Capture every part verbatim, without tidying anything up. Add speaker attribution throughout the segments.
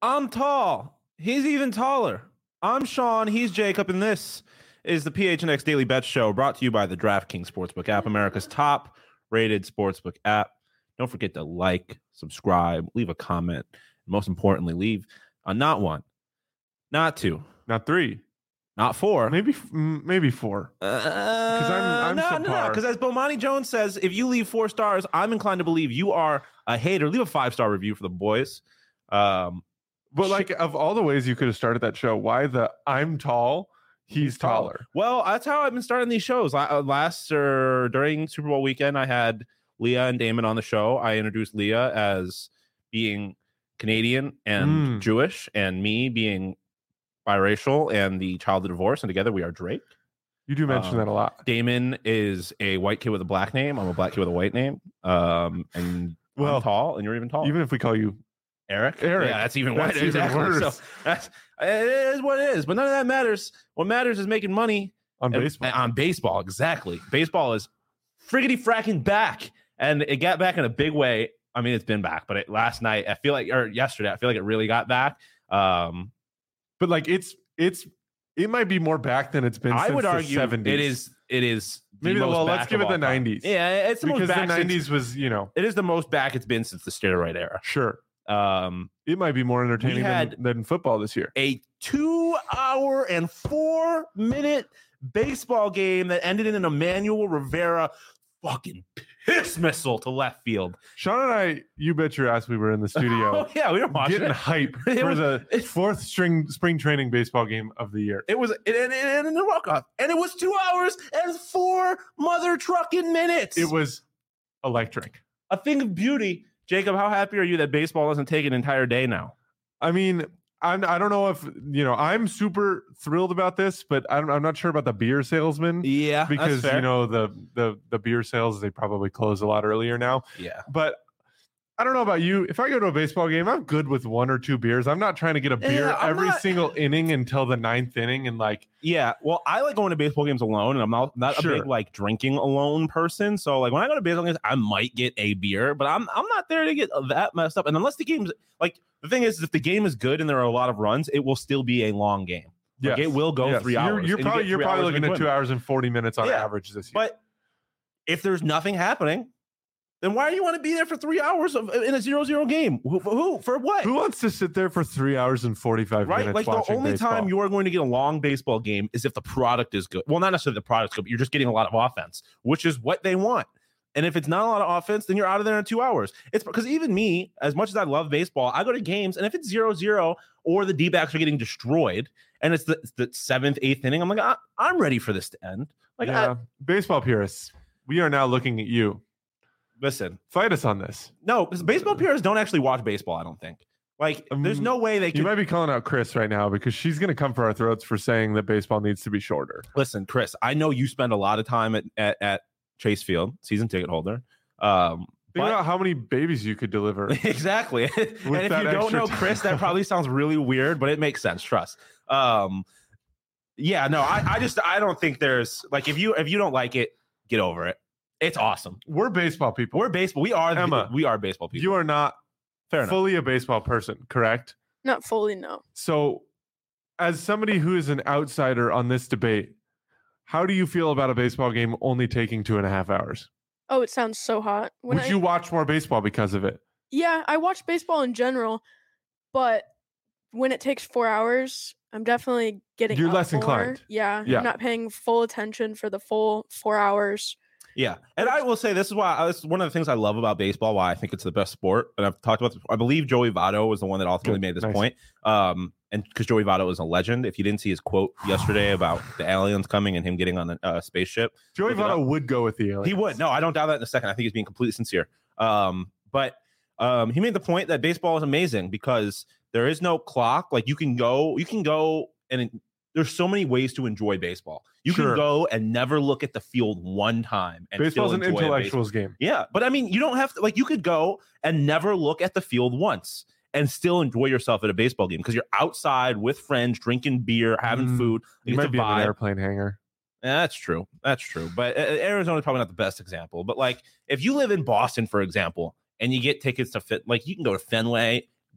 Speaker 1: I'm tall. He's even taller. I'm Sean. He's Jacob. And this is the P H N X Daily Bet Show brought to you by the DraftKings Sportsbook app, America's top rated sportsbook app. Don't forget to like, subscribe, leave a comment. And most importantly, leave a not one, not two,
Speaker 2: not three,
Speaker 1: not four,
Speaker 2: maybe maybe four. Because
Speaker 1: uh,
Speaker 2: I'm, I'm
Speaker 1: no, no, no. Because as Bomani Jones says, if you leave four stars, I'm inclined to believe you are a hater. Leave a five star review for the boys. Um,
Speaker 2: but like of all the ways you could have started that show, why the I'm tall, he's taller?
Speaker 1: Well, that's how I've been starting these shows. Last or during Super Bowl weekend, I had Leah and Damon on the show. I introduced Leah as being Canadian and mm. Jewish, and me being biracial and the child of divorce, and together we are Drake.
Speaker 2: You do mention um, that a lot.
Speaker 1: Damon is a white kid with a black name. I'm a black kid with a white name. Um, and well, I'm tall, and you're even taller.
Speaker 2: Even if we call you
Speaker 1: Eric,
Speaker 2: Eric,
Speaker 1: yeah, that's even
Speaker 2: that's
Speaker 1: whiter.
Speaker 2: Even
Speaker 1: exactly.
Speaker 2: worse.
Speaker 1: So that's it is what it is. But none of that matters. What matters is making money
Speaker 2: on
Speaker 1: and,
Speaker 2: baseball.
Speaker 1: On baseball, exactly. Baseball is friggity fracking back, and it got back in a big way. I mean, it's been back, but it, last night I feel like, or yesterday, I feel like it really got back. Um,
Speaker 2: but like it's it's it might be more back than it's been.
Speaker 1: I
Speaker 2: since
Speaker 1: would
Speaker 2: the
Speaker 1: argue
Speaker 2: seventies.
Speaker 1: It is. It is.
Speaker 2: Maybe the, well, let's give it the nineties.
Speaker 1: Yeah, it's the
Speaker 2: because
Speaker 1: most back
Speaker 2: the nineties
Speaker 1: since,
Speaker 2: was you know
Speaker 1: it is the most back it's been since the steroid era.
Speaker 2: Sure.
Speaker 1: Um,
Speaker 2: it might be more entertaining than, than football this year.
Speaker 1: A two-hour and four-minute baseball game that ended in an Emmanuel Rivera fucking piss missile to left field.
Speaker 2: Sean and I, you bet your ass, we were in the studio.
Speaker 1: Oh yeah, we were watching
Speaker 2: getting
Speaker 1: it.
Speaker 2: hype
Speaker 1: it
Speaker 2: for
Speaker 1: was,
Speaker 2: the it, fourth string spring training baseball game of the year.
Speaker 1: It was it and in the walk-off, and it was two hours and four mother trucking minutes.
Speaker 2: It was electric.
Speaker 1: A thing of beauty. Jacob, how happy are you that baseball doesn't take an entire day now?
Speaker 2: I mean, I'm, I don't know if, you know, I'm super thrilled about this, but I'm, I'm not sure about the beer salesman.
Speaker 1: Yeah,
Speaker 2: because,
Speaker 1: that's fair.
Speaker 2: you know, the, the, the beer sales, they probably close a lot earlier now.
Speaker 1: Yeah.
Speaker 2: But I don't know about you. If I go to a baseball game, I'm good with one or two beers. I'm not trying to get a beer
Speaker 1: yeah,
Speaker 2: every
Speaker 1: not...
Speaker 2: single inning until the ninth inning. And like,
Speaker 1: yeah, well, I like going to baseball games alone, and I'm not, not
Speaker 2: sure.
Speaker 1: a big like drinking alone person. So like when I go to baseball games, I might get a beer, but I'm I'm not there to get that messed up. And unless the game's like, the thing is, if the game is good and there are a lot of runs, it will still be a long game. Like,
Speaker 2: yes.
Speaker 1: It will go
Speaker 2: yes.
Speaker 1: three
Speaker 2: you're,
Speaker 1: hours.
Speaker 2: You're probably you you're probably looking at two hours and forty minutes on
Speaker 1: yeah.
Speaker 2: average this year.
Speaker 1: But if there's nothing happening, then why do you want to be there for three hours of, in a zero zero game? Who, who for what?
Speaker 2: Who wants to sit there for three hours and forty-five
Speaker 1: right?
Speaker 2: minutes?
Speaker 1: Like
Speaker 2: watching
Speaker 1: the only
Speaker 2: baseball?
Speaker 1: time you are going to get a long baseball game is if the product is good. Well, not necessarily the product's good, but you're just getting a lot of offense, which is what they want. And if it's not a lot of offense, then you're out of there in two hours. It's because even me, as much as I love baseball, I go to games, and if it's zero zero or the D-backs are getting destroyed, and it's the, it's the seventh, eighth inning, I'm like, I, I'm ready for this to end. Like,
Speaker 2: yeah.
Speaker 1: I,
Speaker 2: baseball purists, we are now looking at you.
Speaker 1: Listen,
Speaker 2: fight us on this.
Speaker 1: No, because baseball purists don't actually watch baseball, I don't think. Like, um, there's no way they can.
Speaker 2: You might be calling out Chris right now because she's going to come for our throats for saying that baseball needs to be shorter.
Speaker 1: Listen, Chris, I know you spend a lot of time at, at, at Chase Field, season ticket holder. Um,
Speaker 2: Think
Speaker 1: but,
Speaker 2: about how many babies you could deliver.
Speaker 1: Exactly. And if you don't know Chris, that probably sounds really weird, but it makes sense. Trust. Um, yeah, no, I, I just I don't think there's like if you if you don't like it, get over it. It's awesome.
Speaker 2: We're baseball people.
Speaker 1: We're baseball. We are
Speaker 2: Emma.
Speaker 1: We are baseball people.
Speaker 2: You are not
Speaker 1: Fair
Speaker 2: fully
Speaker 1: enough.
Speaker 2: a baseball person, correct?
Speaker 3: Not fully, no.
Speaker 2: So, as somebody who is an outsider on this debate, how do you feel about a baseball game only taking two and a half hours?
Speaker 3: Oh, it sounds so hot.
Speaker 2: When Would I, you watch more baseball because of it?
Speaker 3: Yeah, I watch baseball in general, but when it takes four hours, I'm definitely getting.
Speaker 2: You're
Speaker 3: up
Speaker 2: less
Speaker 3: more.
Speaker 2: inclined.
Speaker 3: Yeah,
Speaker 2: yeah,
Speaker 3: I'm not paying full attention for the full four hours.
Speaker 1: Yeah, and I will say this is why this is one of the things I love about baseball. Why I think it's the best sport, and I've talked about this. I believe Joey Votto was the one that ultimately
Speaker 2: Good.
Speaker 1: made this
Speaker 2: nice.
Speaker 1: point. Um, and because Joey Votto is a legend. If you didn't see his quote yesterday about the aliens coming and him getting on a uh, spaceship,
Speaker 2: Joey Votto would go with the aliens.
Speaker 1: He would. No, I don't doubt that in a second. I think he's being completely sincere. Um, but um, he made the point that baseball is amazing because there is no clock. Like you can go, you can go, and it, there's so many ways to enjoy baseball. You
Speaker 2: sure.
Speaker 1: can go and never look at the field one time. And
Speaker 2: Baseball's an intellectuals
Speaker 1: baseball.
Speaker 2: game.
Speaker 1: Yeah, but I mean, you don't have to. Like, you could go and never look at the field once and still enjoy yourself at a baseball game because you're outside with friends, drinking beer, having
Speaker 2: mm,
Speaker 1: food.
Speaker 2: You, you might be in an airplane hangar.
Speaker 1: Yeah, that's true. That's true. But uh, Arizona's probably not the best example. But like, if you live in Boston, for example, and you get tickets to fit, like you can go to Fenway,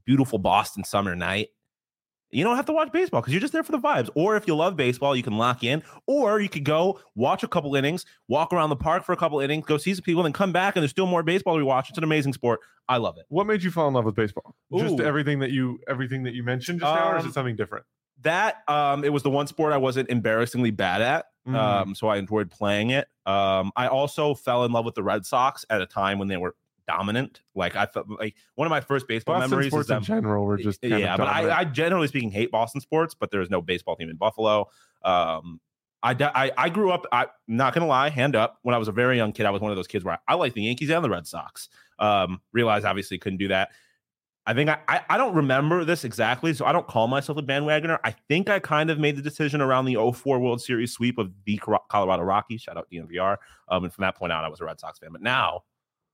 Speaker 1: beautiful Boston summer night, you don't have to watch baseball because you're just there for the vibes. Or if you love baseball, you can lock in. Or you could go watch a couple innings, walk around the park for a couple innings, go see some people, and then come back and there's still more baseball to watch. It's an amazing sport. I love it.
Speaker 2: What made you fall in love with baseball? Just
Speaker 1: Ooh.
Speaker 2: everything that you everything that you mentioned just now, or is
Speaker 1: Um,
Speaker 2: it something different?
Speaker 1: That um, it was the one sport I wasn't embarrassingly bad at.
Speaker 2: Mm.
Speaker 1: Um, so I enjoyed playing it. Um, I also fell in love with the Red Sox at a time when they were dominant. Like I felt like one of my first baseball
Speaker 2: Boston
Speaker 1: memories
Speaker 2: sports
Speaker 1: is them.
Speaker 2: in general were just kind
Speaker 1: yeah,
Speaker 2: of
Speaker 1: but I,
Speaker 2: dominant.
Speaker 1: I generally speaking hate Boston sports, but there is no baseball team in Buffalo. Um, I, I I grew up. I'm not gonna lie, hand up. When I was a very young kid, I was one of those kids where I, I liked the Yankees and the Red Sox. Um, realized obviously couldn't do that. I think I, I I don't remember this exactly, so I don't call myself a bandwagoner. I think I kind of made the decision around the oh four World Series sweep of the Colorado Rockies. Shout out D N V R. Um, and from that point on, I was a Red Sox fan. But now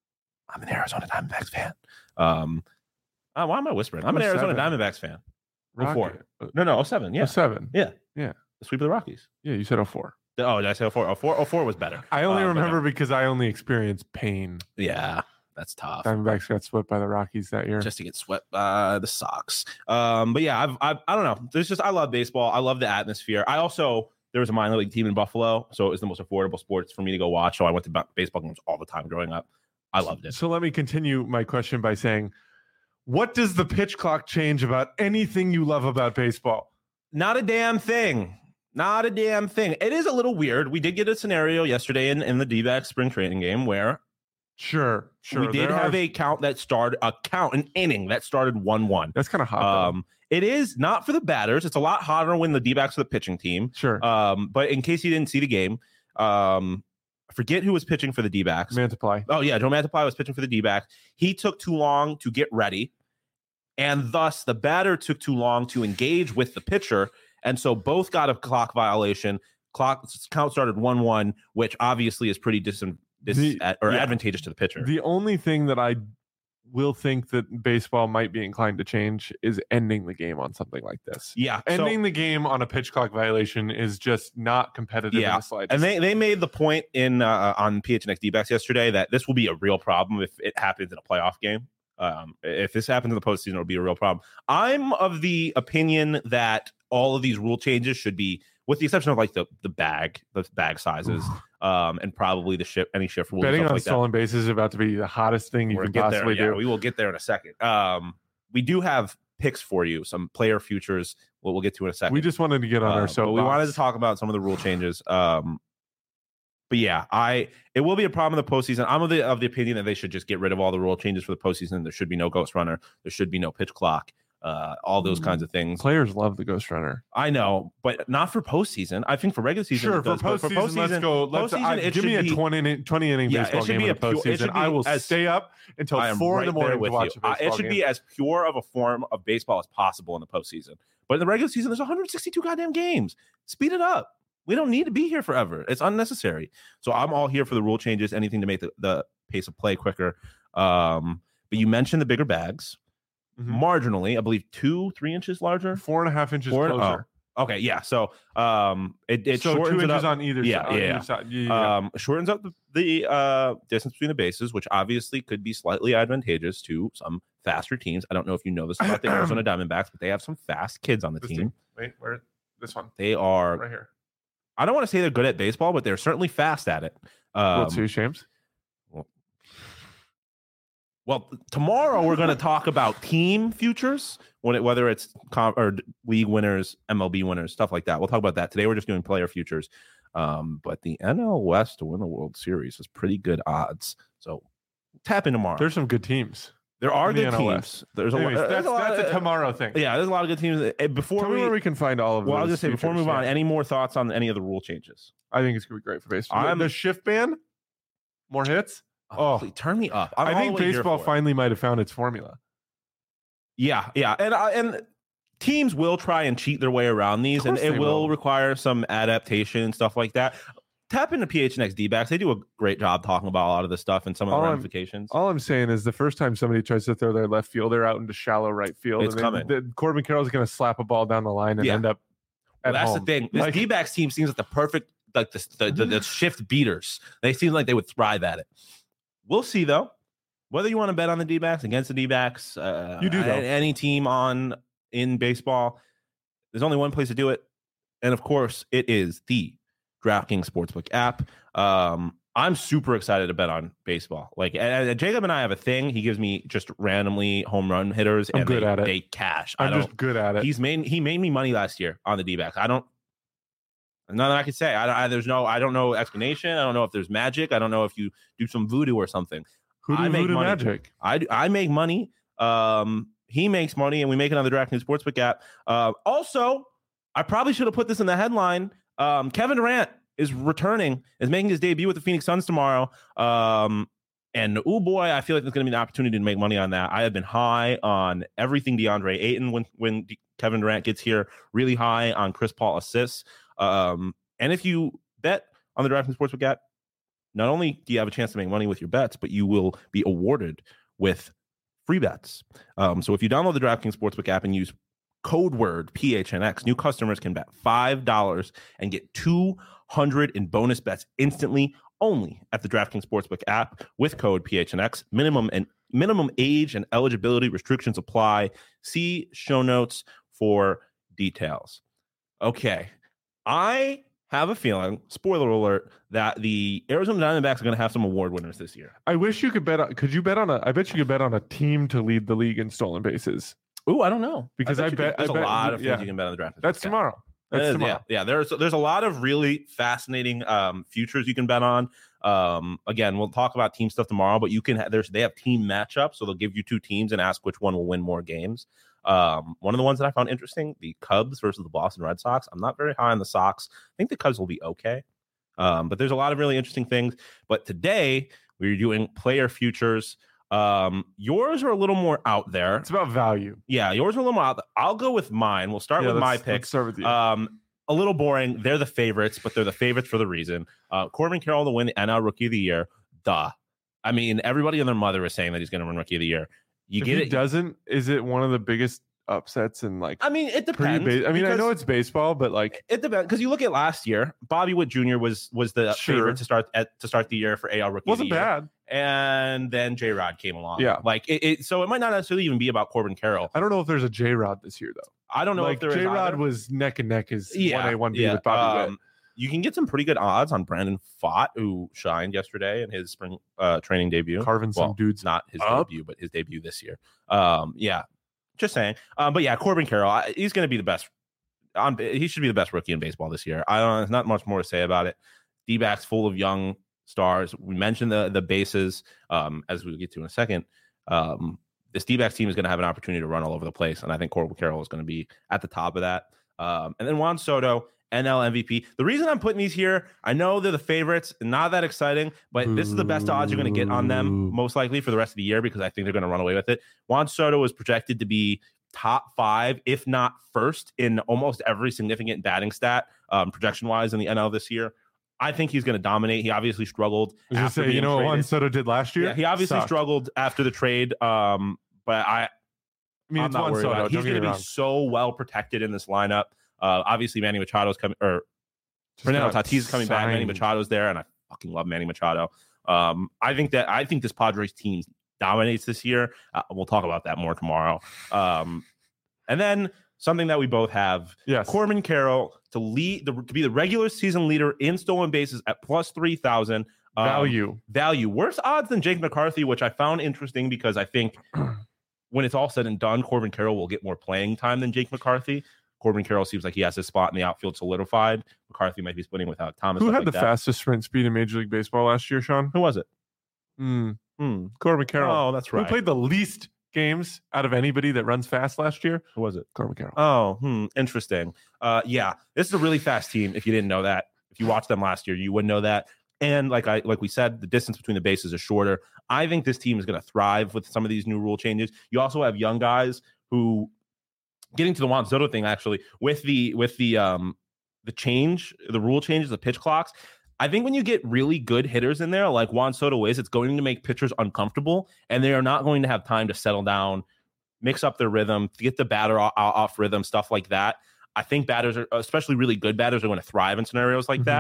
Speaker 1: I'm an Arizona Diamondbacks fan. Um, uh, why am I whispering? I'm an
Speaker 2: Oh,
Speaker 1: Arizona
Speaker 2: seven.
Speaker 1: Diamondbacks fan.
Speaker 2: Rocket.
Speaker 1: oh four. No, no, oh seven. Yeah,
Speaker 2: Oh, seven.
Speaker 1: yeah,
Speaker 2: Yeah.
Speaker 1: the sweep of the Rockies.
Speaker 2: Yeah, you said oh four.
Speaker 1: Oh, did I say oh four? oh four, oh four was better.
Speaker 2: I only
Speaker 1: Uh, but no.
Speaker 2: remember because I only experienced pain.
Speaker 1: Yeah, that's tough.
Speaker 2: Diamondbacks got swept by the Rockies that year.
Speaker 1: Just to get swept by the Sox. Um, but yeah, I've, I've I don't know. There's just I love baseball. I love the atmosphere. I also there was a minor league team in Buffalo, so it was the most affordable sports for me to go watch. So I went to baseball games all the time growing up. I loved it.
Speaker 2: So let me continue my question by saying, what does the pitch clock change about anything you love about baseball?
Speaker 1: Not a damn thing. Not a damn thing. It is a little weird. We did get a scenario yesterday in, in the D-backs spring training game where
Speaker 2: Sure, sure.
Speaker 1: we did
Speaker 2: there
Speaker 1: have
Speaker 2: are-
Speaker 1: a count that started a count, an inning that started one one.
Speaker 2: That's kind of hot. though.
Speaker 1: Um, it is not for the batters. It's a lot hotter when the D-backs are the pitching team.
Speaker 2: Sure.
Speaker 1: Um, but in case you didn't see the game, um, I forget who was pitching for the D-backs.
Speaker 2: Mantiply.
Speaker 1: Oh, yeah, Joe Mantiply was pitching for the D-backs. He took too long to get ready, and thus the batter took too long to engage with the pitcher, and so both got a clock violation. Clock count started one one, which obviously is pretty dis, dis
Speaker 2: The-
Speaker 1: at, or
Speaker 2: yeah.
Speaker 1: advantageous to the pitcher.
Speaker 2: The only thing that I will think that baseball might be inclined to change is ending the game on something like this.
Speaker 1: yeah, so-
Speaker 2: Ending the game on a pitch clock violation is just not competitive
Speaker 1: Yeah,
Speaker 2: in the slightest.
Speaker 1: And they, they made the point in uh, on P H N X D-backs yesterday that this will be a real problem if it happens in a playoff game. Um, if this happens in the postseason, it'll be a real problem. I'm of the opinion that all of these rule changes should be, with the exception of like the the bag, the bag sizes, um, and probably the shift, any shift rules. and
Speaker 2: Betting
Speaker 1: stuff
Speaker 2: on
Speaker 1: like that.
Speaker 2: stolen bases is about to be the hottest thing you
Speaker 1: We're
Speaker 2: can
Speaker 1: gonna get
Speaker 2: possibly
Speaker 1: there. Yeah,
Speaker 2: do.
Speaker 1: we will get there in a second. Um, we do have picks for you, some player futures. What we'll get to in a second.
Speaker 2: We just wanted to get on
Speaker 1: Uh,
Speaker 2: our
Speaker 1: but
Speaker 2: soapbox.
Speaker 1: we wanted to talk about some of the rule changes. Um, but yeah, I it will be a problem in the postseason. I'm of the of the opinion that they should just get rid of all the rule changes for the postseason. There should be no ghost runner. There should be no pitch clock. Uh, all those kinds of things.
Speaker 2: Players love the ghost runner.
Speaker 1: I know, but not for postseason. I think for regular season,
Speaker 2: Sure,
Speaker 1: it
Speaker 2: for
Speaker 1: does, but
Speaker 2: postseason, let's go. Let's
Speaker 1: postseason,
Speaker 2: I,
Speaker 1: it
Speaker 2: give me
Speaker 1: should
Speaker 2: a
Speaker 1: be-
Speaker 2: twenty inning, twenty inning
Speaker 1: Yeah, it
Speaker 2: baseball
Speaker 1: should
Speaker 2: game
Speaker 1: be
Speaker 2: in
Speaker 1: a
Speaker 2: the
Speaker 1: pure- it
Speaker 2: postseason.
Speaker 1: should be
Speaker 2: I will
Speaker 1: as-
Speaker 2: stay up until
Speaker 1: I am
Speaker 2: four
Speaker 1: right
Speaker 2: in the
Speaker 1: there
Speaker 2: morning to
Speaker 1: with
Speaker 2: watch
Speaker 1: you.
Speaker 2: a
Speaker 1: Uh,
Speaker 2: baseball
Speaker 1: it should
Speaker 2: game.
Speaker 1: be as pure of a form of baseball as possible in the postseason. But in the regular season, there's one hundred sixty-two goddamn games. Speed it up. We don't need to be here forever. It's unnecessary. So I'm all here for the rule changes, anything to make the, the pace of play quicker. Um, but you mentioned the bigger bags.
Speaker 2: Mhm.
Speaker 1: Marginally, I believe two, three inches larger.
Speaker 2: Four and a half inches
Speaker 1: Four-
Speaker 2: closer.
Speaker 1: oh, okay, yeah. So um, it, it
Speaker 2: so
Speaker 1: shortens
Speaker 2: two
Speaker 1: it
Speaker 2: inches
Speaker 1: up.
Speaker 2: on either
Speaker 1: Yeah,
Speaker 2: side. on
Speaker 1: yeah,
Speaker 2: either side. Yeah, yeah, yeah.
Speaker 1: Um, shortens up the, the uh, distance between the bases, which obviously could be slightly advantageous to some faster teams. I don't know if you know this about the Arizona Diamondbacks, but they have some fast kids on the
Speaker 2: This
Speaker 1: team.
Speaker 2: team. Wait, where? This one.
Speaker 1: They are,
Speaker 2: Right here.
Speaker 1: I don't want to say they're good at baseball, but they're certainly fast at it. Um,
Speaker 2: World Series champs.
Speaker 1: well, tomorrow we're going to talk about team futures, when it, whether it's com- or league winners, M L B winners, stuff like that. We'll talk about that. Today we're just doing player futures. Um, but the N L West to win the World Series is pretty good odds. So tap in tomorrow.
Speaker 2: There's some good teams.
Speaker 1: There are
Speaker 2: in the
Speaker 1: good
Speaker 2: N L
Speaker 1: teams.
Speaker 2: West.
Speaker 1: There's a,
Speaker 2: Anyways,
Speaker 1: lot,
Speaker 2: that's
Speaker 1: there's a lot
Speaker 2: that's
Speaker 1: of,
Speaker 2: a tomorrow thing.
Speaker 1: Yeah, there's a lot of good teams. Uh, Before
Speaker 2: Tell me
Speaker 1: we,
Speaker 2: where we can find all of
Speaker 1: well, I was
Speaker 2: those
Speaker 1: just say before we
Speaker 2: futures,
Speaker 1: move on,
Speaker 2: yeah.
Speaker 1: any more thoughts on any of the rule changes?
Speaker 2: I think it's gonna be great for baseball.
Speaker 1: I'm-
Speaker 2: the shift ban, more hits. Oh.
Speaker 1: please, turn me up. I'm
Speaker 2: I
Speaker 1: all
Speaker 2: think
Speaker 1: the way here
Speaker 2: baseball
Speaker 1: for it.
Speaker 2: finally might have found its formula.
Speaker 1: Yeah, yeah, and uh, and teams will try and cheat their way around these, and
Speaker 2: course
Speaker 1: it
Speaker 2: they
Speaker 1: will,
Speaker 2: will.
Speaker 1: require some adaptation and stuff like that. Tap into P H N X D-backs. They do a great job talking about a lot of this stuff and some of the
Speaker 2: All I'm-
Speaker 1: ramifications.
Speaker 2: All I'm saying is the first time somebody tries to throw their left fielder out into shallow right field,
Speaker 1: It's
Speaker 2: and
Speaker 1: coming.
Speaker 2: then the, Corbin Carroll's going to slap a ball down the line and
Speaker 1: Yeah.
Speaker 2: end up.
Speaker 1: Well,
Speaker 2: at
Speaker 1: that's
Speaker 2: home.
Speaker 1: the thing. This
Speaker 2: Like-
Speaker 1: D-backs team seems like the perfect, like the, the, the, the shift beaters. They seem like they would thrive at it. We'll see, though. whether you want to bet on the D-backs, against the D-backs, uh,
Speaker 2: You do, though.
Speaker 1: any team on in baseball, there's only one place to do it. And of course, it is the DraftKings Sportsbook app. Um, I'm super excited to bet on baseball. Like uh, Jacob and I have a thing. He gives me just randomly home run hitters,
Speaker 2: I'm
Speaker 1: and
Speaker 2: good
Speaker 1: they,
Speaker 2: at it.
Speaker 1: they cash.
Speaker 2: I'm
Speaker 1: I don't,
Speaker 2: just good at it.
Speaker 1: He's made he made me money last year on the D-backs. I don't. Nothing I can say. I, I there's no. I don't know explanation. I don't know if there's magic. I don't know if you do some voodoo or something.
Speaker 2: Hoodoo,
Speaker 1: I make
Speaker 2: voodoo
Speaker 1: money.
Speaker 2: magic.
Speaker 1: I I make money. Um, he makes money, and we make it on the DraftKings Sportsbook app. Uh, also, I probably should have put this in the headline. Um, Kevin Durant is returning, is making his debut with the Phoenix Suns tomorrow. Um, and oh boy, I feel like there's going to be an opportunity to make money on that. I have been high on everything DeAndre Ayton when when D- Kevin Durant gets here. Really high on Chris Paul assists. Um, and if you bet on the DraftKings Sportsbook app, not only do you have a chance to make money with your bets, but you will be awarded with free bets. Um, so if you download the DraftKings Sportsbook app and use code word P H N X, new customers can bet five dollars and get two hundred in bonus bets instantly, only at the DraftKings Sportsbook app with code P H N X. Minimum and minimum age and eligibility restrictions apply. See show notes for details. Okay, I have a feeling, spoiler alert, that the Arizona Diamondbacks are going to have some award winners this year.
Speaker 2: I wish you could bet on. Could you bet on a? I bet you could bet on a team to lead the league in stolen bases.
Speaker 1: Ooh, I don't know.
Speaker 2: Because I
Speaker 1: you
Speaker 2: bet-
Speaker 1: could, there's
Speaker 2: I
Speaker 1: a
Speaker 2: bet-
Speaker 1: lot of things
Speaker 2: yeah.
Speaker 1: you can bet on the draft.
Speaker 2: That's
Speaker 1: Okay.
Speaker 2: tomorrow. That's
Speaker 1: It is,
Speaker 2: tomorrow.
Speaker 1: Yeah, yeah. There's there's a lot of really fascinating um, futures you can bet on. Um, again, we'll talk about team stuff tomorrow, but you can ha- there's they have team matchups, so they'll give you two teams and ask which one will win more games. Um, one of the ones that I found interesting, the Cubs versus the Boston Red Sox. I'm not very high on the Sox. I think the Cubs will be okay. Um, but there's a lot of really interesting things. But today we're doing player futures. Um, yours are a little more out there.
Speaker 2: It's about value.
Speaker 1: Yeah, yours are a little more out there. I'll go with mine. We'll start
Speaker 2: Yeah,
Speaker 1: with my
Speaker 2: let's-
Speaker 1: pick.
Speaker 2: Let's start with you.
Speaker 1: Um, a little boring. They're the favorites, but they're the favorites for the reason. Uh, Corbin Carroll to win the N L Rookie of the Year. Duh. I mean, everybody and their mother is saying that he's going to win Rookie of the Year. You
Speaker 2: if
Speaker 1: get
Speaker 2: he
Speaker 1: it.
Speaker 2: doesn't, is it one of the biggest upsets in like
Speaker 1: I mean, it
Speaker 2: pretty
Speaker 1: depends.
Speaker 2: base? I mean, I
Speaker 1: because
Speaker 2: know it's baseball, but like
Speaker 1: it depends because you look at last year. Bobby Witt Junior was was the
Speaker 2: Sure.
Speaker 1: favorite to start at to start the year for A L Rookie.
Speaker 2: wasn't
Speaker 1: of the Year.
Speaker 2: bad.
Speaker 1: And then J Rod came along.
Speaker 2: Yeah.
Speaker 1: like it, it. So it might not necessarily even be about Corbin Carroll.
Speaker 2: I don't know if there's a J Rod this year though.
Speaker 1: I don't know
Speaker 2: like
Speaker 1: if there is
Speaker 2: J Rod
Speaker 1: either.
Speaker 2: was neck and neck as
Speaker 1: Yeah,
Speaker 2: one A one B
Speaker 1: yeah.
Speaker 2: with Bobby Witt.
Speaker 1: Um, you can get some pretty good odds on Brandon Pfaadt, who shined yesterday in his spring uh, training debut.
Speaker 2: Carving some
Speaker 1: well,
Speaker 2: dudes
Speaker 1: not his
Speaker 2: up.
Speaker 1: debut, but his debut this year. Um, yeah, just saying. Um, but yeah, Corbin Carroll, I, he's going to be the best. On, he should be the best rookie in baseball this year. I don't. There's not much more to say about it. D-backs full of young stars. We mentioned the the bases, um, as we'll get to in a second. Um, this D-backs team is going to have an opportunity to run all over the place, and I think Corbin Carroll is going to be at the top of that. Um, and then Juan Soto, N L M V P. The reason I'm putting these here, I know they're the favorites, not that exciting, but this is the best odds you're going to get on them,
Speaker 2: Ooh.
Speaker 1: most likely for the rest of the year, because I think they're going to run away with it. Juan Soto is projected to be top five, if not first, in almost every significant batting stat, um, projection-wise in the N L this year. I think he's going to dominate. He obviously struggled.
Speaker 2: I was just
Speaker 1: after
Speaker 2: say, you
Speaker 1: being
Speaker 2: know what Juan
Speaker 1: traded.
Speaker 2: Soto did last year?
Speaker 1: Yeah, he obviously
Speaker 2: Sucked.
Speaker 1: struggled after the trade, um, but I,
Speaker 2: I mean,
Speaker 1: I'm
Speaker 2: it's
Speaker 1: not
Speaker 2: Juan
Speaker 1: worried
Speaker 2: Soto.
Speaker 1: about it.
Speaker 2: Don't
Speaker 1: He's
Speaker 2: get
Speaker 1: going
Speaker 2: me
Speaker 1: to be
Speaker 2: wrong.
Speaker 1: so well protected in this lineup. Uh, obviously, Manny Machado's coming, or
Speaker 2: Just
Speaker 1: Fernando
Speaker 2: got
Speaker 1: Tatis is coming back. Manny
Speaker 2: signed.
Speaker 1: Machado's there, and I fucking love Manny Machado. Um, I think that I think this Padres team dominates this year. Uh, we'll talk about that more tomorrow. Um, and then something that we both have:
Speaker 2: Yes.
Speaker 1: Corbin Carroll to lead the, to be the regular season leader in stolen bases at plus three thousand. Um,
Speaker 2: Value.
Speaker 1: value worse odds than Jake McCarthy, which I found interesting because I think when it's all said and done, Corbin Carroll will get more playing time than Jake McCarthy. Corbin Carroll seems like he has his spot in the outfield solidified. McCarthy might be splitting without Thomas.
Speaker 2: Who
Speaker 1: stuff
Speaker 2: had
Speaker 1: like
Speaker 2: the
Speaker 1: that.
Speaker 2: fastest sprint speed in Major League Baseball last year, Sean?
Speaker 1: Who was it?
Speaker 2: Hmm.
Speaker 1: Hmm.
Speaker 2: Corbin Carroll.
Speaker 1: Oh, that's right.
Speaker 2: Who played the least games out of anybody that runs fast last year?
Speaker 1: Who was it?
Speaker 2: Corbin Carroll.
Speaker 1: Oh, hmm, interesting. Uh, yeah, this is a really fast team. If you didn't know that, if you watched them last year, you would know that. And like I like we said, the distance between the bases is shorter. I think this team is going to thrive with some of these new rule changes. You also have young guys who, getting to the Juan Soto thing, actually, with the with the um the change, the rule changes, the pitch clocks. I think when you get really good hitters in there, like Juan Soto is, it's going to make pitchers uncomfortable, and they are not going to have time to settle down, mix up their rhythm, to get the batter off, off rhythm, stuff like that. I think batters are, especially really good batters, are going to thrive in scenarios like that.
Speaker 2: Mhm.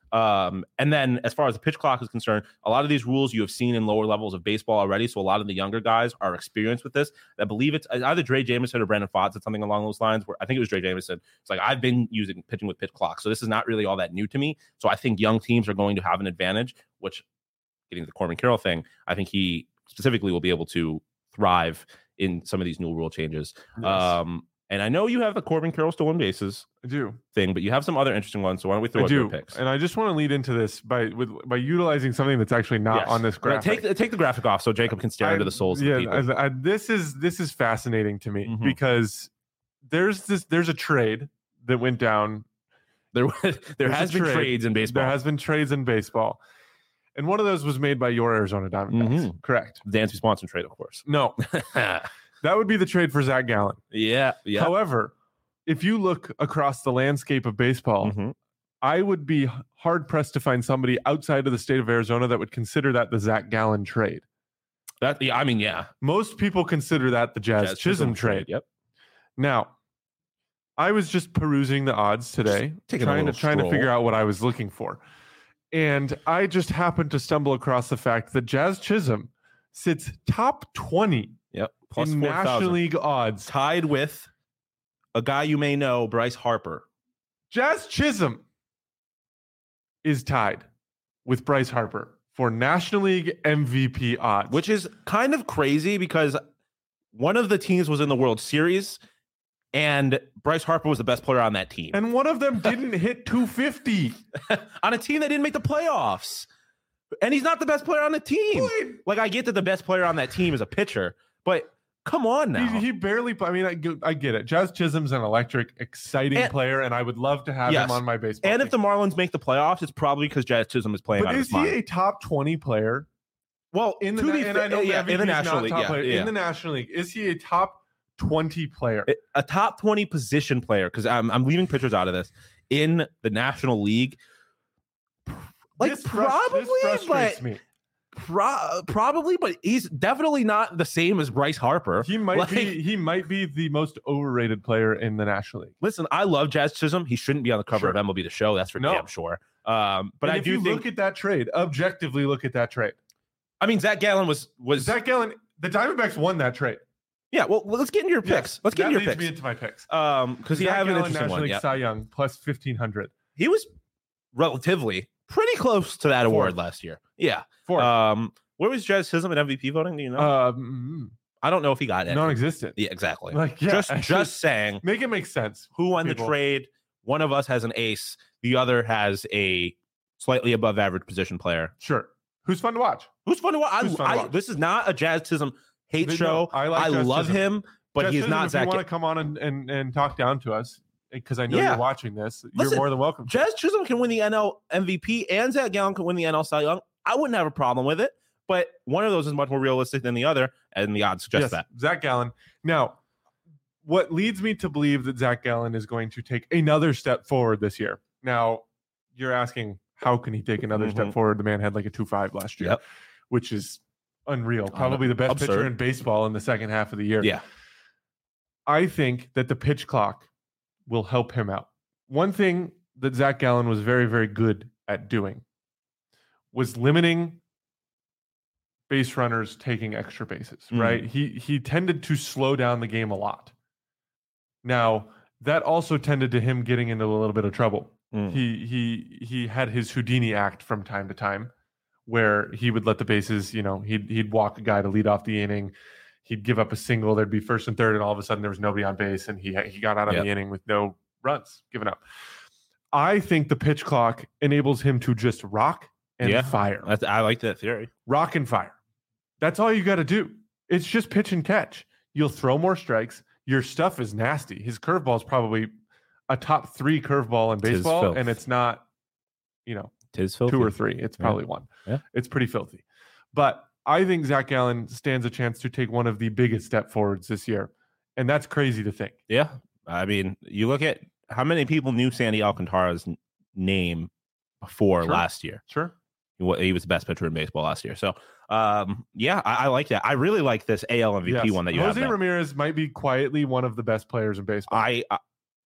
Speaker 1: Um, and then as far as the pitch clock is concerned, a lot of these rules you have seen in lower levels of baseball already. So a lot of the younger guys are experienced with this. I believe it's either Dre Jameson or Brandon Pfaadt said something along those lines, where I think it was Dre Jameson. It's like, I've been using pitching with pitch clock, so this is not really all that new to me. So I think young teams are going to have an advantage, which, getting to the Corbin Carroll thing, I think he specifically will be able to thrive in some of these new rule changes.
Speaker 2: Yes.
Speaker 1: Um, and I know you have the Corbin Carroll stolen bases
Speaker 2: I do.
Speaker 1: thing, but you have some other interesting ones. So why don't we throw
Speaker 2: I
Speaker 1: out
Speaker 2: do.
Speaker 1: your picks?
Speaker 2: And I just want to lead into this by with by utilizing something that's actually not
Speaker 1: Yes.
Speaker 2: on this
Speaker 1: Uh,
Speaker 2: graphic.
Speaker 1: Take take the graphic off so Jacob can stare
Speaker 2: I-
Speaker 1: into the souls
Speaker 2: yeah,
Speaker 1: of the people.
Speaker 2: I- I- this is this is fascinating to me
Speaker 1: Mhm.
Speaker 2: because there's this there's a trade that went down.
Speaker 1: There, there
Speaker 2: There's
Speaker 1: has
Speaker 2: a
Speaker 1: been
Speaker 2: trade.
Speaker 1: trades in baseball.
Speaker 2: There has been trades in baseball, and one of those was made by your Arizona Diamondbacks.
Speaker 1: Mhm.
Speaker 2: Correct?
Speaker 1: Dansby Swanson trade, of course.
Speaker 2: No, that would be the trade for Zach Gallen.
Speaker 1: yeah, yeah.
Speaker 2: However, if you look across the landscape of baseball,
Speaker 1: Mhm.
Speaker 2: I would be hard pressed to find somebody outside of the state of Arizona that would consider that the Zach Gallen trade.
Speaker 1: That, yeah, I mean, yeah.
Speaker 2: Most people consider that the Jazz,
Speaker 1: Jazz
Speaker 2: Chisholm, trade.
Speaker 1: Yep.
Speaker 2: Now, I was just perusing the odds today,
Speaker 1: taking a
Speaker 2: trying to
Speaker 1: little
Speaker 2: trying to
Speaker 1: stroll.
Speaker 2: figure out what I was looking for, and I just happened to stumble across the fact that Jazz Chisholm sits top twenty
Speaker 1: Yep. Plus
Speaker 2: in
Speaker 1: four
Speaker 2: National
Speaker 1: thousand.
Speaker 2: League odds.
Speaker 1: Tied with a guy you may know, Bryce Harper.
Speaker 2: Jazz Chisholm is tied with Bryce Harper for National League M V P odds,
Speaker 1: Which is kind of crazy because one of the teams was in the World Series and Bryce Harper was the best player on that team.
Speaker 2: and one of them didn't hit two fifty.
Speaker 1: on a team that didn't make the playoffs. And he's not the best player on the team. Like, I get that the best player on that team is a pitcher, but come on now.
Speaker 2: He, he barely. I mean, I, get- I get it. Jazz Chisholm's an electric, exciting
Speaker 1: And-
Speaker 2: player, and I would love to have
Speaker 1: Yes.
Speaker 2: him on my baseball.
Speaker 1: and if the
Speaker 2: team.
Speaker 1: Marlins make the playoffs, it's probably because Jazz Chisholm is playing
Speaker 2: but
Speaker 1: out of
Speaker 2: is
Speaker 1: his mind.
Speaker 2: he a top twenty player
Speaker 1: well,
Speaker 2: in the
Speaker 1: to
Speaker 2: na-
Speaker 1: be
Speaker 2: and I
Speaker 1: fair-
Speaker 2: know
Speaker 1: yeah,
Speaker 2: M V P
Speaker 1: in the
Speaker 2: is
Speaker 1: National
Speaker 2: not
Speaker 1: League,
Speaker 2: top
Speaker 1: yeah,
Speaker 2: player.
Speaker 1: yeah.
Speaker 2: In the National League, is he a top twenty player?
Speaker 1: a top twenty position player, because I'm I'm leaving pitchers out of this, in the National League. Like,
Speaker 2: This frus-
Speaker 1: probably,
Speaker 2: this frustrates
Speaker 1: but
Speaker 2: me.
Speaker 1: pro- probably, but he's definitely not the same as Bryce Harper.
Speaker 2: He might
Speaker 1: like-
Speaker 2: be. He might be the most overrated player in the National League.
Speaker 1: Listen, I love Jazz Chisholm. He shouldn't be on the cover
Speaker 2: Sure.
Speaker 1: of M L B The Show. That's for
Speaker 2: No.
Speaker 1: damn sure. Um, but
Speaker 2: And
Speaker 1: I
Speaker 2: if
Speaker 1: do
Speaker 2: you
Speaker 1: think.
Speaker 2: look at that trade, objectively look at that trade.
Speaker 1: I mean, Zach Gallen was was.
Speaker 2: Zach Gallen, the Diamondbacks won that trade.
Speaker 1: yeah. Well, let's get into your picks.
Speaker 2: Yes,
Speaker 1: let's get
Speaker 2: that
Speaker 1: into your
Speaker 2: leads me
Speaker 1: picks.
Speaker 2: into my picks.
Speaker 1: Um, because you
Speaker 2: Zach
Speaker 1: have an
Speaker 2: Gallen,
Speaker 1: interesting
Speaker 2: National
Speaker 1: one.
Speaker 2: League
Speaker 1: Yeah.
Speaker 2: Cy Young plus fifteen hundred.
Speaker 1: He was relatively pretty close to that award
Speaker 2: Fourth.
Speaker 1: last year. Yeah.
Speaker 2: Fourth.
Speaker 1: Um, where was Jazz Chisholm in M V P voting? Do you know?
Speaker 2: Um,
Speaker 1: I don't know if he got it.
Speaker 2: non-existent.
Speaker 1: Yeah, exactly.
Speaker 2: Like, yeah,
Speaker 1: just
Speaker 2: I
Speaker 1: just
Speaker 2: should-
Speaker 1: saying
Speaker 2: make it make sense.
Speaker 1: who won
Speaker 2: people.
Speaker 1: the trade. One of us has an ace. The other has a slightly above average position player.
Speaker 2: Sure. Who's fun to watch?
Speaker 1: Who's fun to watch? I,
Speaker 2: Who's fun to
Speaker 1: I-
Speaker 2: watch?
Speaker 1: This is not a Jazz Chisholm hate
Speaker 2: No,
Speaker 1: show.
Speaker 2: I
Speaker 1: I,
Speaker 2: like Jazz
Speaker 1: love
Speaker 2: Chisholm.
Speaker 1: him, but
Speaker 2: Jazz
Speaker 1: he's
Speaker 2: Chisholm,
Speaker 1: not
Speaker 2: if
Speaker 1: Zach.
Speaker 2: you want to come on and, and, and talk down to us, because I know
Speaker 1: Yeah.
Speaker 2: you're watching this,
Speaker 1: Listen,
Speaker 2: you're more than welcome.
Speaker 1: Jazz Chisholm can win the N L M V P and Zach Gallen can win the N L Cy Young. I wouldn't have a problem with it, but one of those is much more realistic than the other, and the odds suggest
Speaker 2: yes,
Speaker 1: that.
Speaker 2: Zach Gallen. Now, what leads me to believe that Zach Gallen is going to take another step forward this year. Now, you're asking, how can he take another step
Speaker 1: Mhm.
Speaker 2: forward? The man had like a two five last year,
Speaker 1: Yep.
Speaker 2: which is unreal. Probably the best pitcher
Speaker 1: absurd.
Speaker 2: in baseball in the second half of the year.
Speaker 1: Yeah.
Speaker 2: I think that the pitch clock will help him out. One thing that Zach Gallen was very, very good at doing was limiting base runners taking extra bases,
Speaker 1: Mm.
Speaker 2: right? He he tended to slow down the game a lot. Now, that also tended to him getting into a little bit of trouble.
Speaker 1: Mm.
Speaker 2: He he he had his Houdini act from time to time where he would let the bases, you know, he'd he'd walk a guy to lead off the inning. He'd give up a single, there'd be first and third, and all of a sudden there was nobody on base, and he he got out of
Speaker 1: Yep.
Speaker 2: the inning with no runs given up. I think the pitch clock enables him to just rock and
Speaker 1: Yeah.
Speaker 2: fire.
Speaker 1: That's, I like that theory.
Speaker 2: Rock and fire. That's all you got to do. It's just pitch and catch. You'll throw more strikes. Your stuff is nasty. His curveball is probably a top three curveball in
Speaker 1: Tis
Speaker 2: baseball,
Speaker 1: filth.
Speaker 2: and it's not, you know,
Speaker 1: Tis filthy.
Speaker 2: two or three. It's
Speaker 1: Yeah.
Speaker 2: probably one.
Speaker 1: Yeah.
Speaker 2: It's pretty filthy. But I think Zach Gallen stands a chance to take one of the biggest step forwards this year. And that's crazy to think.
Speaker 1: Yeah. I mean, you look at how many people knew Sandy Alcantara's n- name before
Speaker 2: Sure.
Speaker 1: last year.
Speaker 2: Sure.
Speaker 1: He wa- he was the best pitcher in baseball last year. So, um, yeah, I, I like that. I really like this A L M V P
Speaker 2: Yes.
Speaker 1: one that you
Speaker 2: Jose
Speaker 1: have. there.
Speaker 2: Ramirez might be quietly one of the best players in baseball.
Speaker 1: I, I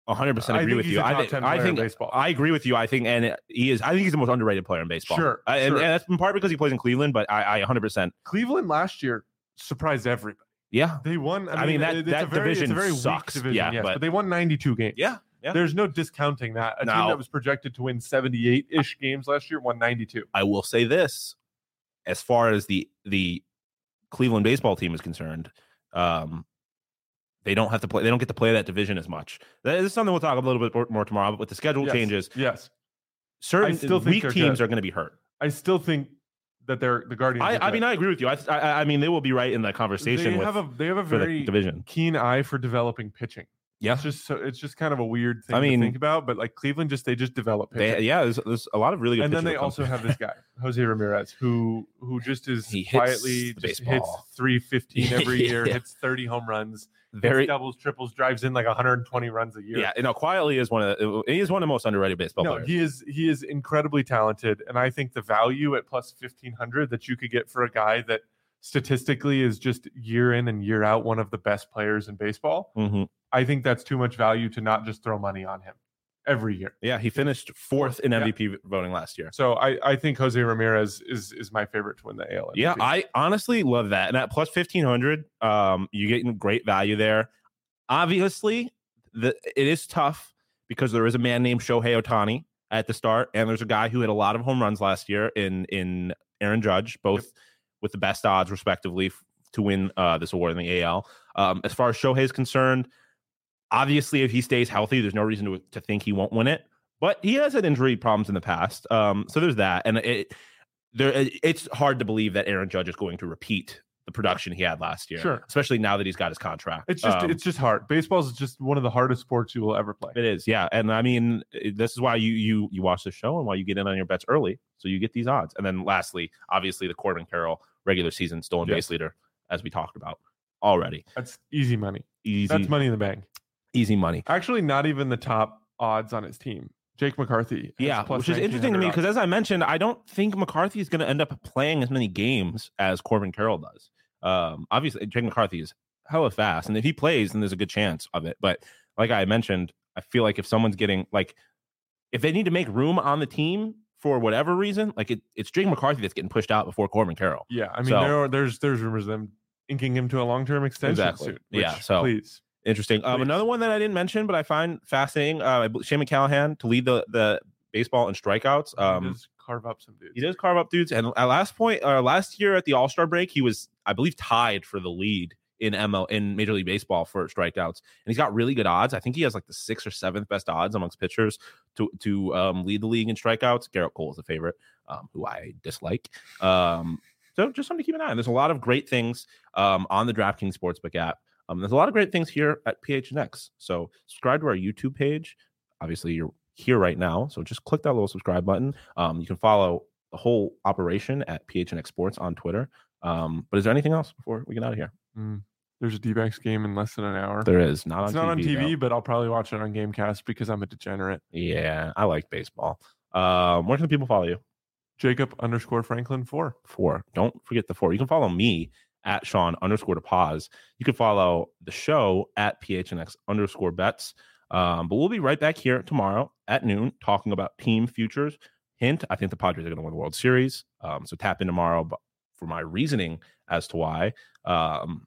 Speaker 1: one hundred percent
Speaker 2: I
Speaker 1: agree
Speaker 2: think
Speaker 1: with
Speaker 2: he's
Speaker 1: you.
Speaker 2: a
Speaker 1: I
Speaker 2: top
Speaker 1: think
Speaker 2: ten
Speaker 1: I
Speaker 2: player in
Speaker 1: think
Speaker 2: baseball.
Speaker 1: I agree with you. I think and he is. I think he's the most underrated player in baseball.
Speaker 2: Sure,
Speaker 1: I, and,
Speaker 2: sure.
Speaker 1: and that's in part because he plays in Cleveland. But I, I one hundred percent.
Speaker 2: Cleveland last year surprised everybody.
Speaker 1: Yeah.
Speaker 2: They won. I mean,
Speaker 1: I mean, that-
Speaker 2: it- it's
Speaker 1: that
Speaker 2: a very,
Speaker 1: division
Speaker 2: it's a very
Speaker 1: sucks.
Speaker 2: weak division,
Speaker 1: Yeah,
Speaker 2: yes,
Speaker 1: but-
Speaker 2: but, they won ninety-two games.
Speaker 1: Yeah. Yeah.
Speaker 2: There's no discounting that. A team
Speaker 1: Now-
Speaker 2: that was projected to win seventy-eight-ish games last year won ninety-two.
Speaker 1: I will say this, as far as the the Cleveland baseball team is concerned, um, they don't have to play. They don't get to play that division as much. That is something we'll talk a little bit more- more tomorrow. But with the schedule
Speaker 2: Yes,
Speaker 1: changes,
Speaker 2: Yes.
Speaker 1: certain
Speaker 2: I still think
Speaker 1: weak
Speaker 2: they're
Speaker 1: teams
Speaker 2: good.
Speaker 1: are going to be hurt.
Speaker 2: I still think that they're the Guardians.
Speaker 1: I,
Speaker 2: are
Speaker 1: I
Speaker 2: good.
Speaker 1: mean, I agree with you. I, I I mean, they will be right in that conversation
Speaker 2: they
Speaker 1: with
Speaker 2: have a they have a
Speaker 1: for the
Speaker 2: very
Speaker 1: division.
Speaker 2: keen eye for developing pitching.
Speaker 1: Yeah.
Speaker 2: It's just so it's just kind of a weird thing
Speaker 1: I mean-
Speaker 2: to think about, but like Cleveland just they just develop pitching.
Speaker 1: They, yeah, there's, there's a lot of really good.
Speaker 2: and then
Speaker 1: pitchers
Speaker 2: they
Speaker 1: that come
Speaker 2: also
Speaker 1: through.
Speaker 2: have this guy, Jose Ramirez, who who just is
Speaker 1: He hits
Speaker 2: quietly
Speaker 1: the
Speaker 2: just hits
Speaker 1: baseball.
Speaker 2: three fifteen every year,
Speaker 1: Yeah.
Speaker 2: hits thirty home runs,
Speaker 1: very
Speaker 2: hits doubles, triples, drives in like one hundred twenty runs a year.
Speaker 1: yeah. You know, quietly is one of the, he is one of the most underrated baseball
Speaker 2: No,
Speaker 1: players.
Speaker 2: he is he is incredibly talented, and I think the value at plus fifteen hundred that you could get for a guy that statistically is just year in and year out one of the best players in baseball.
Speaker 1: Mhm.
Speaker 2: I think that's too much value to not just throw money on him every year.
Speaker 1: Yeah, he finished fourth in
Speaker 2: Yeah.
Speaker 1: M V P voting last year.
Speaker 2: So I, I think Jose Ramirez is is my favorite to win the A L.
Speaker 1: Yeah,
Speaker 2: M V P.
Speaker 1: I honestly love that. And at plus fifteen hundred, um, you're getting great value there. Obviously, the it is tough because there is a man named Shohei Ohtani at the start, and there's a guy who hit a lot of home runs last year in in Aaron Judge, both with the best odds respectively f- to win uh, this award in the A L. Um, as far as Shohei is concerned, obviously, if he stays healthy, there's no reason to to think he won't win it. But he has had injury problems in the past, um, so there's that, and it there it's hard to believe that Aaron Judge is going to repeat the production he had last year,
Speaker 2: Sure.
Speaker 1: especially now that he's got his contract.
Speaker 2: It's just
Speaker 1: Um,
Speaker 2: it's just hard. Baseball is just one of the hardest sports you will ever play.
Speaker 1: it is, yeah, and I mean it- this is why you you you watch the show and why you get in on your bets early, so you get these odds. And then lastly, obviously the Corbin Carroll regular season stolen
Speaker 2: Yes.
Speaker 1: base leader, as we talked about already.
Speaker 2: That's easy money.
Speaker 1: Easy,
Speaker 2: That's money in the bank.
Speaker 1: easy money.
Speaker 2: Actually, not even the top odds on his team. Jake McCarthy. has
Speaker 1: Yeah,
Speaker 2: plus
Speaker 1: which is interesting to me
Speaker 2: nineteen hundred
Speaker 1: because, as I mentioned, I don't think McCarthy is going to end up playing as many games as Corbin Carroll does. Um, obviously, Jake McCarthy is hella fast, and if he plays, then there's a good chance of it. But like I mentioned, I feel like if someone's getting like, if they need to make room on the team for whatever reason, like it, it's Jake McCarthy that's getting pushed out before Corbin Carroll.
Speaker 2: Yeah, I mean
Speaker 1: So-
Speaker 2: there are, there's there's rumors of them inking him to a long term extension
Speaker 1: Exactly.
Speaker 2: soon.
Speaker 1: Yeah,
Speaker 2: which,
Speaker 1: so-
Speaker 2: please.
Speaker 1: Interesting. Um,
Speaker 2: Please.
Speaker 1: another one that I didn't mention, but I find fascinating. Uh, Shane McCallahan to lead the the baseball in strikeouts.
Speaker 2: He
Speaker 1: Um,
Speaker 2: does carve up some dudes.
Speaker 1: He does carve up dudes. And at last point, uh, last year at the All Star break, he was, I believe, tied for the lead in M L in Major League Baseball for strikeouts, and he's got really good odds. I think he has like the sixth or seventh best odds amongst pitchers to to um, lead the league in strikeouts. Garrett Cole is a favorite, um, who I dislike. Um, so just something to keep an eye on. There's a lot of great things um, on the DraftKings Sportsbook app. Um, there's a lot of great things here at P H N X. So subscribe to our YouTube page. Obviously, you're here right now, so just click that little subscribe button. Um, you can follow the whole operation at P H N X Sports on Twitter. Um, but is there anything else before we get out of here?
Speaker 2: Mm, there's a D-backs game in less than an hour.
Speaker 1: There is not on
Speaker 2: it's
Speaker 1: T V.
Speaker 2: not on T V,
Speaker 1: though.
Speaker 2: but I'll probably watch it on Gamecast because I'm a degenerate.
Speaker 1: Yeah, I like baseball. Um, where can the people follow you?
Speaker 2: Jacob underscore Franklin four.
Speaker 1: Four. Don't forget the four. You can follow me at Sean underscore to pause. You can follow the show at P H N X underscore bets. Um, but we'll be right back here tomorrow at noon talking about team futures. Hint, I think the Padres are going to win the World Series. Um, so tap in tomorrow but for my reasoning as to why. Um,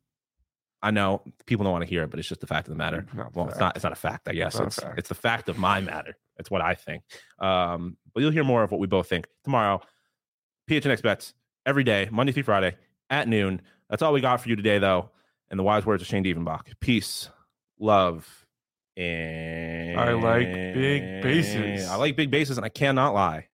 Speaker 1: I know people don't want to hear it, but it's just the fact of the matter.
Speaker 2: Not
Speaker 1: Well,
Speaker 2: fact.
Speaker 1: it's not. It's not a fact. I guess
Speaker 2: not a
Speaker 1: it's
Speaker 2: fact.
Speaker 1: it's the fact of my matter. It's what I think. Um, but you'll hear more of what we both think tomorrow. P H N X bets every day, Monday through Friday at noon. That's all we got for you today, though. And the wise words of Shane Dievenbach: peace, love, and
Speaker 2: I like big bases.
Speaker 1: I like big bases, and I cannot lie.